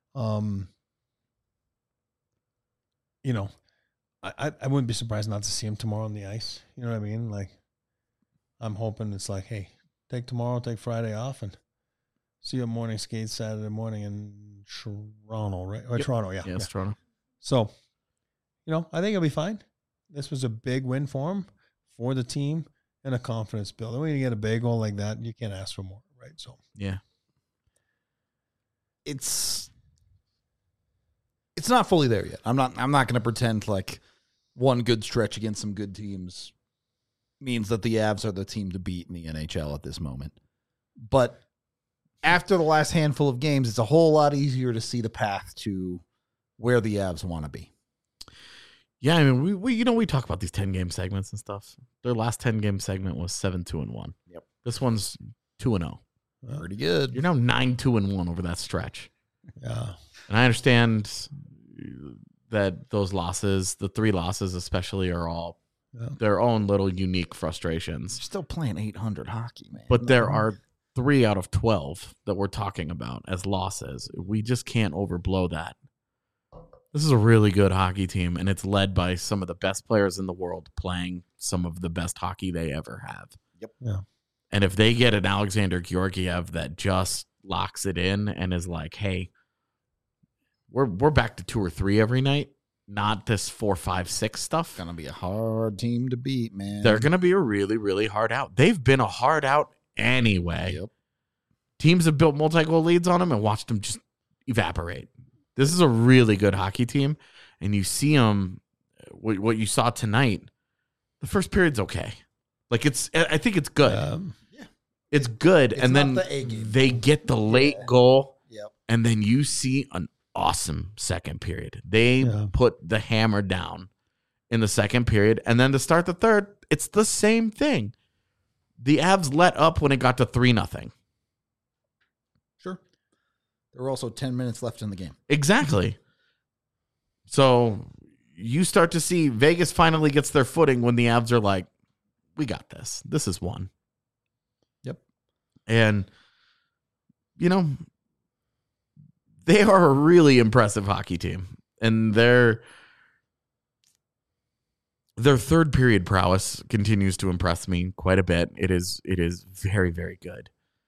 I wouldn't be surprised not to see him tomorrow on the ice. You know what I mean? Like, I'm hoping it's like, hey, take tomorrow, take Friday off, and see you at morning skate Saturday morning in Toronto, right? Or Toronto, yeah. Yes, Toronto. So, I think he'll be fine. This was a big win for him, for the team, and a confidence builder. When you get a big goal like that, you can't ask for more, right? So, Yeah. It's not fully there yet. I'm not going to pretend like one good stretch against some good teams means that the Avs are the team to beat in the NHL at this moment. But after the last handful of games, it's a whole lot easier to see the path to where the Avs want to be. Yeah, I mean, we talk about these 10-game segments and stuff. Their last 10-game segment was 7-2-1. Yep. This one's 2-0. Pretty good. You're now 9-2-1 over that stretch. yeah. And I understand that those losses, the 3 losses especially, are all their own little unique frustrations. You're still playing 800 hockey, man. But there are 3 out of 12 that we're talking about as losses. We just can't overblow that. This is a really good hockey team, and it's led by some of the best players in the world playing some of the best hockey they ever have. Yep. Yeah. And if they get an Alexander Georgiev that just locks it in and is like, hey, we're back to 2 or 3 every night, not this 4, 5, 6 stuff. Going to be a hard team to beat, man. They're going to be a really, really hard out. They've been a hard out anyway. Yep. Teams have built multi-goal leads on them and watched them just evaporate. This is a really good hockey team, and you see them. What you saw tonight, the first period's okay. Like I think it's good. It's good, It's and not then the A game. they get the late goal, Yep. and then you see an awesome second period. They put the hammer down in the second period, and then to start the third, it's the same thing. The Avs let up when it got to 3-0. Sure. There were also 10 minutes left in the game. Exactly. So you start to see Vegas finally gets their footing when the Avs are like, we got this. This is one. Yep. And, they are a really impressive hockey team. And their third period prowess continues to impress me quite a bit. It is very, very good.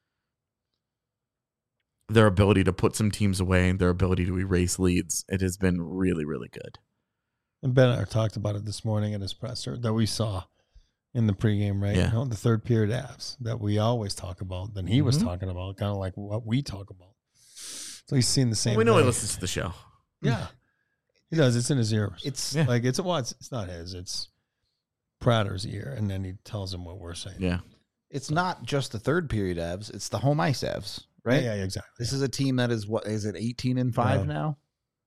Their ability to put some teams away, their ability to erase leads, it has been really, really good. And Ben and I talked about it this morning at his presser that we saw in the pregame, right? Yeah. You know, the third period Avs that we always talk about, then he was talking about, kind of like what we talk about. So he's seen the same. Well, we know he thing. listens to the show. Yeah, he does. It's in his ears. It's like it's not his. It's Prater's ear, and then he tells him what we're saying. Yeah. It's not just the third period Avs. It's the home ice Avs, right? Yeah, exactly. This is a team that is, what is it, 18-5 now?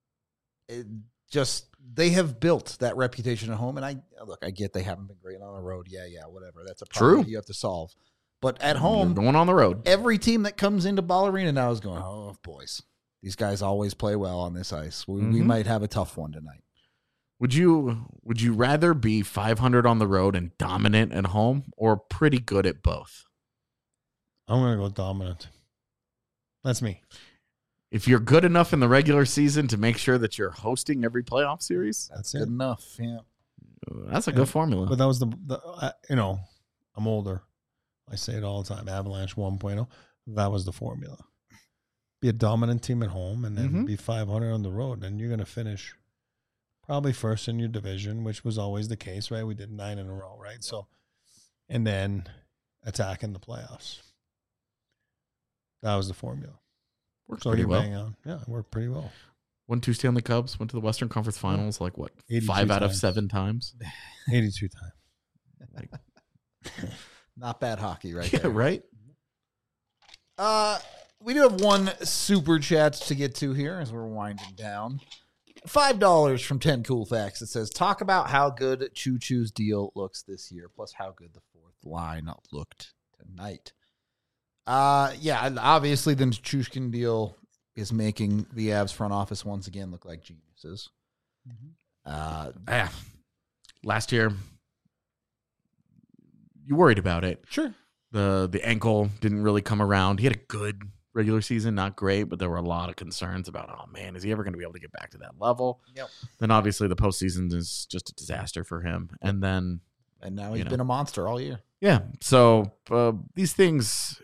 They have built that reputation at home. And I get they haven't been great on the road. Yeah, whatever. That's a problem True. you have to solve. But at home, You're going on the road. every team that comes into Ball Arena now is going, oh, boys, these guys always play well on this ice. We might have a tough one tonight. Would you rather be 500 on the road and dominant at home, or pretty good at both? I'm gonna go dominant. That's me. If you're good enough in the regular season to make sure that you're hosting every playoff series, That's Good it. enough. Yeah. that's a good formula. But that was I'm older. I say it all the time. Avalanche 1.0. That was the formula. Be a dominant team at home, and then be 500 on the road, and you're going to finish probably first in your division, which was always the case, right? We did 9 in a row, right? So, and then attack in the playoffs. That was the formula. Worked So pretty you're well. bang on. Yeah, it worked pretty well. Won 2 Stanley Cups, went to the Western Conference Finals, 82 5 out of times. 7 times. 82 times. Not bad hockey right Yeah, there. right? We do have one super chat to get to here as we're winding down. $5 from 10 Cool Facts. It says, talk about how good Choo Choo's deal looks this year, plus how good the fourth line looked tonight. And obviously the Nichushkin deal is making the Avs front office once again look like geniuses. Last year, you worried about it. Sure. The ankle didn't really come around. He had a good regular season, not great, but there were a lot of concerns about, oh man, is he ever going to be able to get back to that level? Yep. Then obviously the postseason is just a disaster for him. And then, And now he's been a monster all year. yeah, so these things,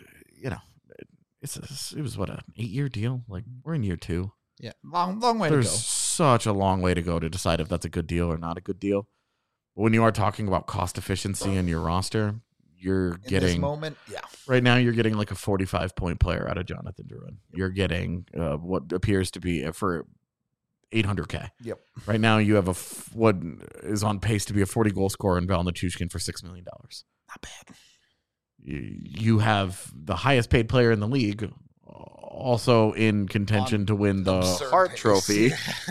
it was what, an 8-year deal? Like, we're in year 2. Yeah. Long way There's to go. such a long way to go to decide if that's a good deal or not a good deal. But when you are talking about cost efficiency in your roster, you're In this getting moment, yeah. right now you're getting like a 45-point player out of Jonathan Drouin. You're getting what appears to be for $800K. Yep. Right now you have what is on pace to be a 40-goal scorer in Val Nichushkin for $6 million. Not bad. You have the highest paid player in the league, also in contention to win the Absurd Hart pace. Trophy.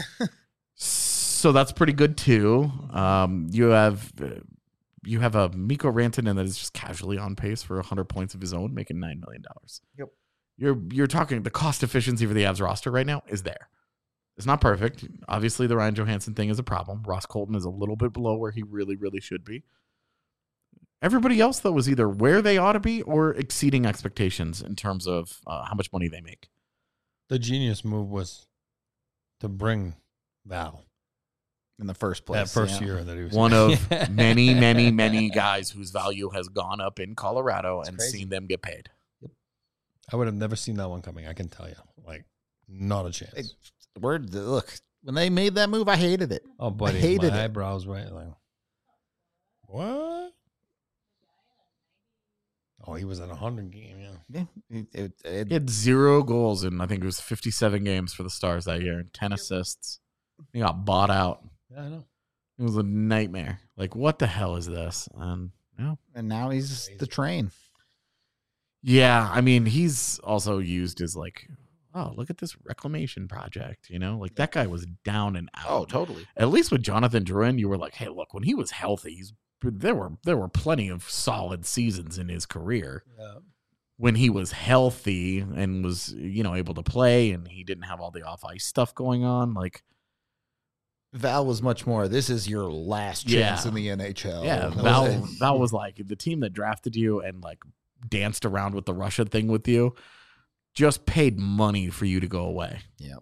So that's pretty good too. You have a Mikko Rantanen that is just casually on pace for 100 points of his own, making $9 million. Yep. You're talking the cost efficiency for the Avs roster right now is there. It's not perfect. Obviously, the Ryan Johansson thing is a problem. Ross Colton is a little bit below where he really, really should be. Everybody else, though, was either where they ought to be or exceeding expectations in terms of how much money they make. The genius move was to bring Val In the first place. that first yeah. year that he was One of many, many, many guys whose value has gone up in Colorado and crazy. seen them get paid. I would have never seen that one coming. I can tell you, like, not a chance. Hey, look, when they made that move, I hated it. Oh, buddy, hated my it. eyebrows right like, what? Oh, he was at 100 game, yeah. Yeah, He had 0 goals in, I think it was 57 games for the Stars that year and 10 assists. He got bought out. Yeah, I know. It was a nightmare. Like, what the hell is this? And and now he's the train. yeah, I mean, he's also used as like, oh, look at this reclamation project. Like that guy was down and out. Oh, totally. At least with Jonathan Drouin, you were like, hey, look, when he was healthy, there were plenty of solid seasons in his career. Yeah. When he was healthy and was, able to play and he didn't have all the off ice stuff going on, like Val was much more, this is your last chance Yeah. in the NHL. yeah, That was it. Val was like the team that drafted you and like danced around with the Russia thing with you, just paid money for you to go away. Yep.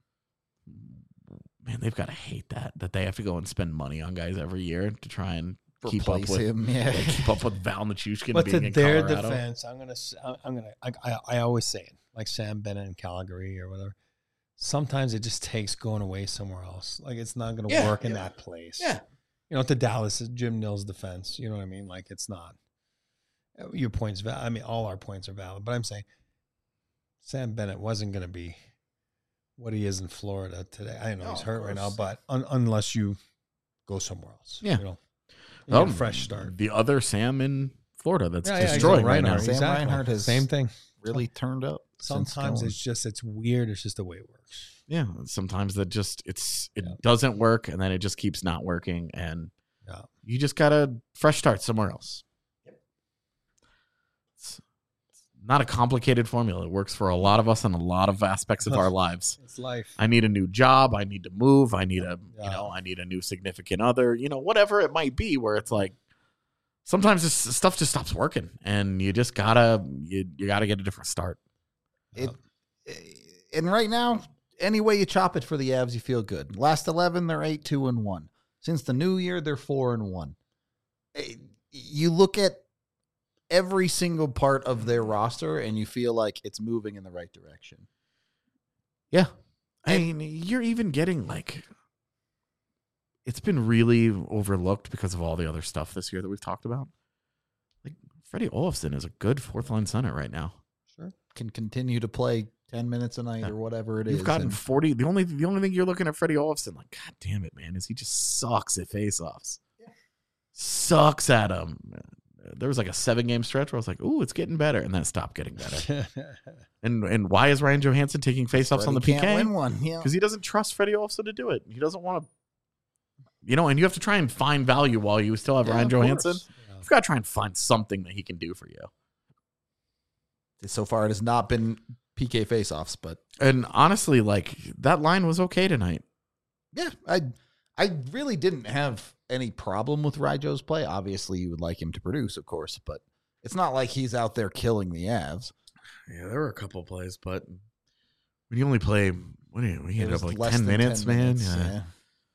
Man, they've got to hate that they have to go and spend money on guys every year to try and keep up Replace with him. Yeah. keep up with Val Nichushkin But being to in their Colorado. defense, I always say it, like Sam Bennett in Calgary or whatever. Sometimes it just takes going away somewhere else. Like it's not going to Yeah, work in yeah. that place. Yeah. To Dallas, Jim Nill's defense. You know what I mean? Like it's not. Your point's valid. I mean, all our points are valid. But I'm saying Sam Bennett wasn't going to be what he is in Florida today. I know No, he's of hurt right now, course. but unless you go somewhere else, Yeah. you Oh, get a fresh start. The other Sam in Florida that's Yeah, destroyed exactly. right now. Reinhart, Sam Reinhart has same thing. really turned up. since Sometimes going. it's weird. It's just the way it works. Yeah, sometimes that just it Yeah. doesn't work, and then it just keeps not working, and Yeah. you just got to fresh start somewhere else. It's not a complicated formula. It works for a lot of us in a lot of aspects of our lives. It's life. I need a new job. I need to move. I need Yeah. I need a new significant other. Whatever it might be. Where it's like sometimes this stuff just stops working, and you just gotta you gotta get a different start. And right now, any way you chop it for the Avs, you feel good. Last 11, they're 8-2-1. Since the new year, they're 4-1. You look at every single part of their roster, and you feel like it's moving in the right direction. Yeah. I mean, you're even getting like, it's been really overlooked because of all the other stuff this year that we've talked about. Like, Freddie Olofsson is a good fourth line center right now. Sure. Can continue to play 10 minutes a night Yeah. or whatever it is. You've gotten and 40. The only thing you're looking at Freddie Olofsson, like, God damn it, man, is he just sucks at faceoffs. Sucks at them. There was like a 7-game stretch where I was like, ooh, it's getting better. And then it stopped getting better. And why is Ryan Johansson taking faceoffs on the Freddie PK? can't win one. Yeah. Because he doesn't trust Freddie Olofsson to do it. He doesn't want to, and you have to try and find value while you still have Yeah, Ryan of Johansson. course. You've got to try and find something that he can do for you. So far, it has not been PK faceoffs, but And honestly, like, that line was okay tonight. yeah, I really didn't have any problem with Ryjo's play. Obviously, you would like him to produce, of course, but it's not like he's out there killing the Avs. Yeah, there were a couple of plays, but when you only play, we It ended was up like less 10 than minutes, 10 man. minutes, Yeah.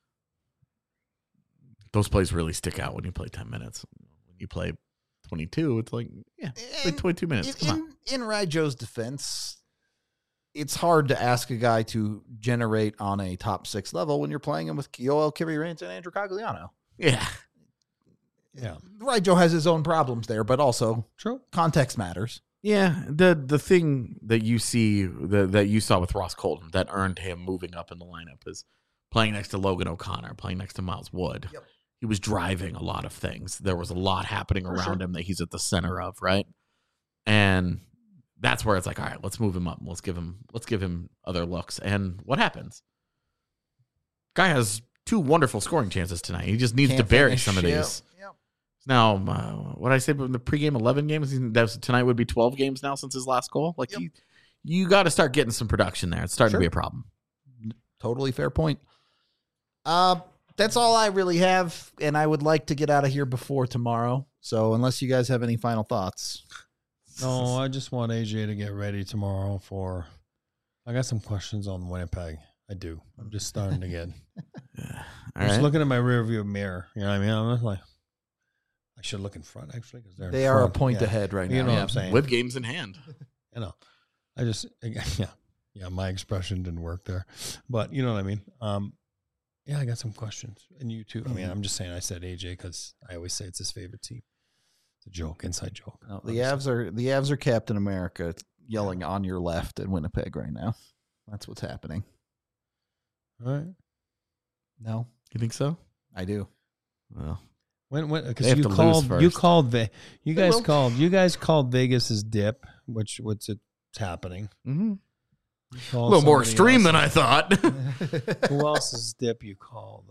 Those plays really stick out when you play 10 minutes. When you play 22, it's like, yeah, play 22 minutes. Come on. In Ryjo's defense, it's hard to ask a guy to generate on a top 6 level when you're playing him with Yoel Kiviranta and Andrew Cogliano. Yeah. Yeah. Ryjo has his own problems there, but also True. context matters. Yeah, the thing that you see that you saw with Ross Colton that earned him moving up in the lineup is playing next to Logan O'Connor, playing next to Miles Wood. Yep. He was driving a lot of things. There was a lot happening around him that he's at the center of, right? And that's where it's like, all right, let's move him up. Let's give him other looks. And what happens? Guy has 2 wonderful scoring chances tonight. He just needs to Can't bury finish. some of Yep. these. Yep. Now, what I say in the pregame 11 games, tonight would be 12 games now since his last goal. Like, Yep. you got to start getting some production there. It's starting Sure. to be a problem. Totally fair point. That's all I really have, and I would like to get out of here before tomorrow. So unless you guys have any final thoughts. No, I just want AJ to get ready tomorrow for. I got some questions on Winnipeg. I do. I'm just starting to get. All I'm just right. looking at my rearview mirror. You know what I mean? I'm just like, I should look in front actually because They are a point ahead right now. You know what yeah. I'm saying? With games in hand. You know, I just yeah. My expression didn't work there, but you know what I mean. Yeah, I got some questions, and you too. I mean, I'm just saying. I said AJ because I always say it's his favorite team. a joke, inside joke. No, the Avs are Captain America yelling on your left in Winnipeg right now. That's what's happening. All right. No, You think so? I do. Well, When They because have you to lose called first. you guys called Vegas's dip, which it's happening. mm-hmm. You a called little more somebody extreme than else's- I thought. Who else's dip you called?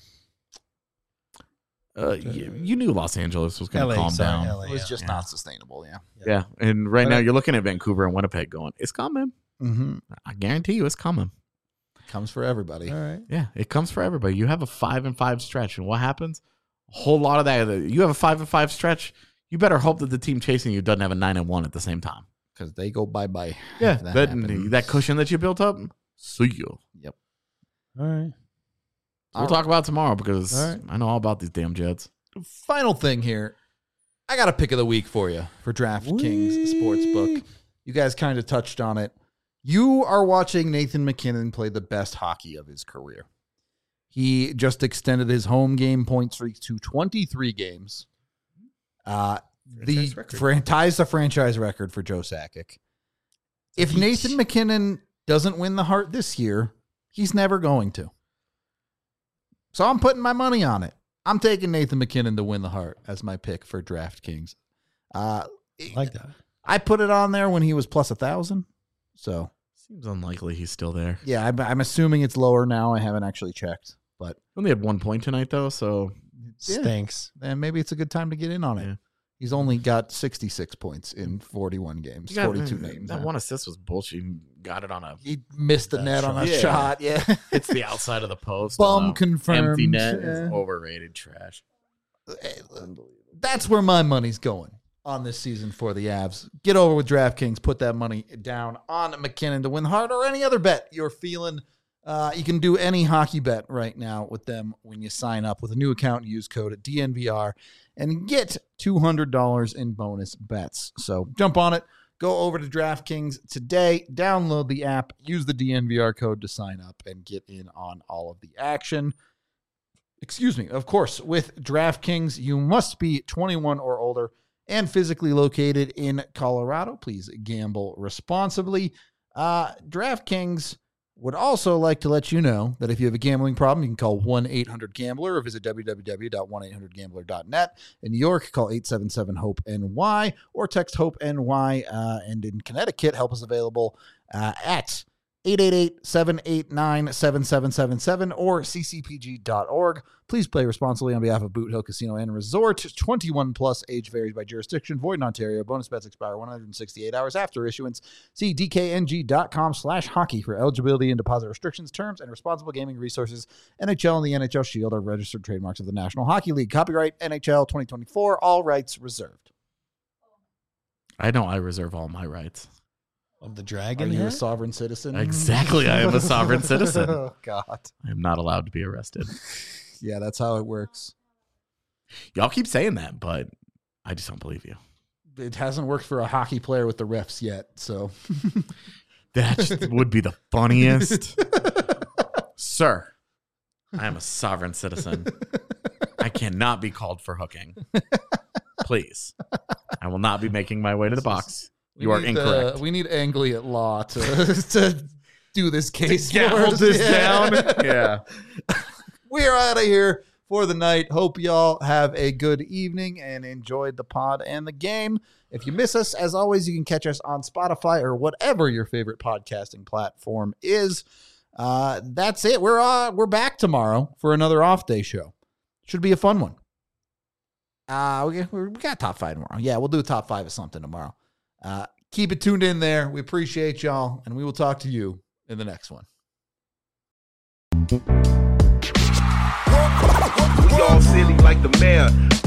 You knew Los Angeles was going LA, to calm sorry, down. LA, It was yeah. just Yeah. not sustainable. Yeah. Yeah, and right But now I- you're looking at Vancouver and Winnipeg going, it's coming. Mm-hmm. I guarantee you it's coming. Comes for everybody. All right. Yeah, it comes for everybody. You have a 5-5 stretch, and what happens? A whole lot of that. You have a 5-5 stretch. You better hope that the team chasing you doesn't have a 9-1 at the same time. Because they go bye-bye. Yeah, if that that happens. cushion that you built up. See you. Yep. All right. We'll talk about it tomorrow because All right. I know all about these damn Jets. Final thing here. I got a pick of the week for you for DraftKings Sportsbook. You guys kind of touched on it. You are watching Nathan McKinnon play the best hockey of his career. He just extended his home game point streak to 23 games. Ties the franchise record for Joe Sakic. If Nathan McKinnon doesn't win the Hart this year, he's never going to. So I'm putting my money on it. I'm taking Nathan McKinnon to win the Hart as my pick for DraftKings. I like that. I put it on there when he was plus 1,000. So Seems unlikely he's still there. yeah, I'm assuming it's lower now. I haven't actually checked, but Only had 1 point tonight though, so Yeah. Stinks. then maybe it's a good time to get in on it. Yeah. He's only got 66 points in 41 games, 42 games. That one assist was bullshit. He got it on a He missed the That net on a shot. shot. Yeah. hits the outside of the post. Bum on a confirmed. Empty net Yeah. is overrated trash. That's where my money's going on this season for the Avs. Get over with DraftKings. Put that money down on McKinnon to win the Hart or any other bet you're feeling. You can do any hockey bet right now with them when you sign up with a new account and use code DNVR and get $200 in bonus bets. So jump on it. Go over to DraftKings today, download the app, use the DNVR code to sign up and get in on all of the action. Excuse me. Of course, with DraftKings, you must be 21 or older and physically located in Colorado. Please gamble responsibly. DraftKings would also like to let you know that if you have a gambling problem, you can call 1-800-GAMBLER or visit www.1800gambler.net. In New York, call 877-HOPE-NY or text HOPE-NY. And in Connecticut, help is available at 888-789-7777 or ccpg.org. Please play responsibly on behalf of Boot Hill Casino and Resort. 21 plus, age varies by jurisdiction, void in Ontario. Bonus bets expire 168 hours after issuance. See dkng.com/hockey for eligibility and deposit restrictions, terms, and responsible gaming resources. NHL and the NHL Shield are registered trademarks of the National Hockey League. Copyright NHL 2024, all rights reserved. I know I reserve all my rights. Of the Are dragon you here? a sovereign citizen? Exactly. I am a sovereign citizen. Oh, God. I am not allowed to be arrested. Yeah, that's how it works. Y'all keep saying that, but I just don't believe you. It hasn't worked for a hockey player with the refs yet, so. That just would be the funniest. Sir, I am a sovereign citizen. I cannot be called for hooking. Please. I will not be making my way to the box. You are incorrect. We need Angley at law to do this case. Hold for us. this Yeah. down. Yeah. We're out of here for the night. Hope y'all have a good evening and enjoyed the pod and the game. If you miss us, as always, you can catch us on Spotify or whatever your favorite podcasting platform is. That's it. We're back tomorrow for another off day show. Should be a fun one. We got top 5 tomorrow. Yeah, we'll do a top 5 of something tomorrow. Keep it tuned in there. We appreciate y'all, and we will talk to you in the next one. We all silly like the mayor.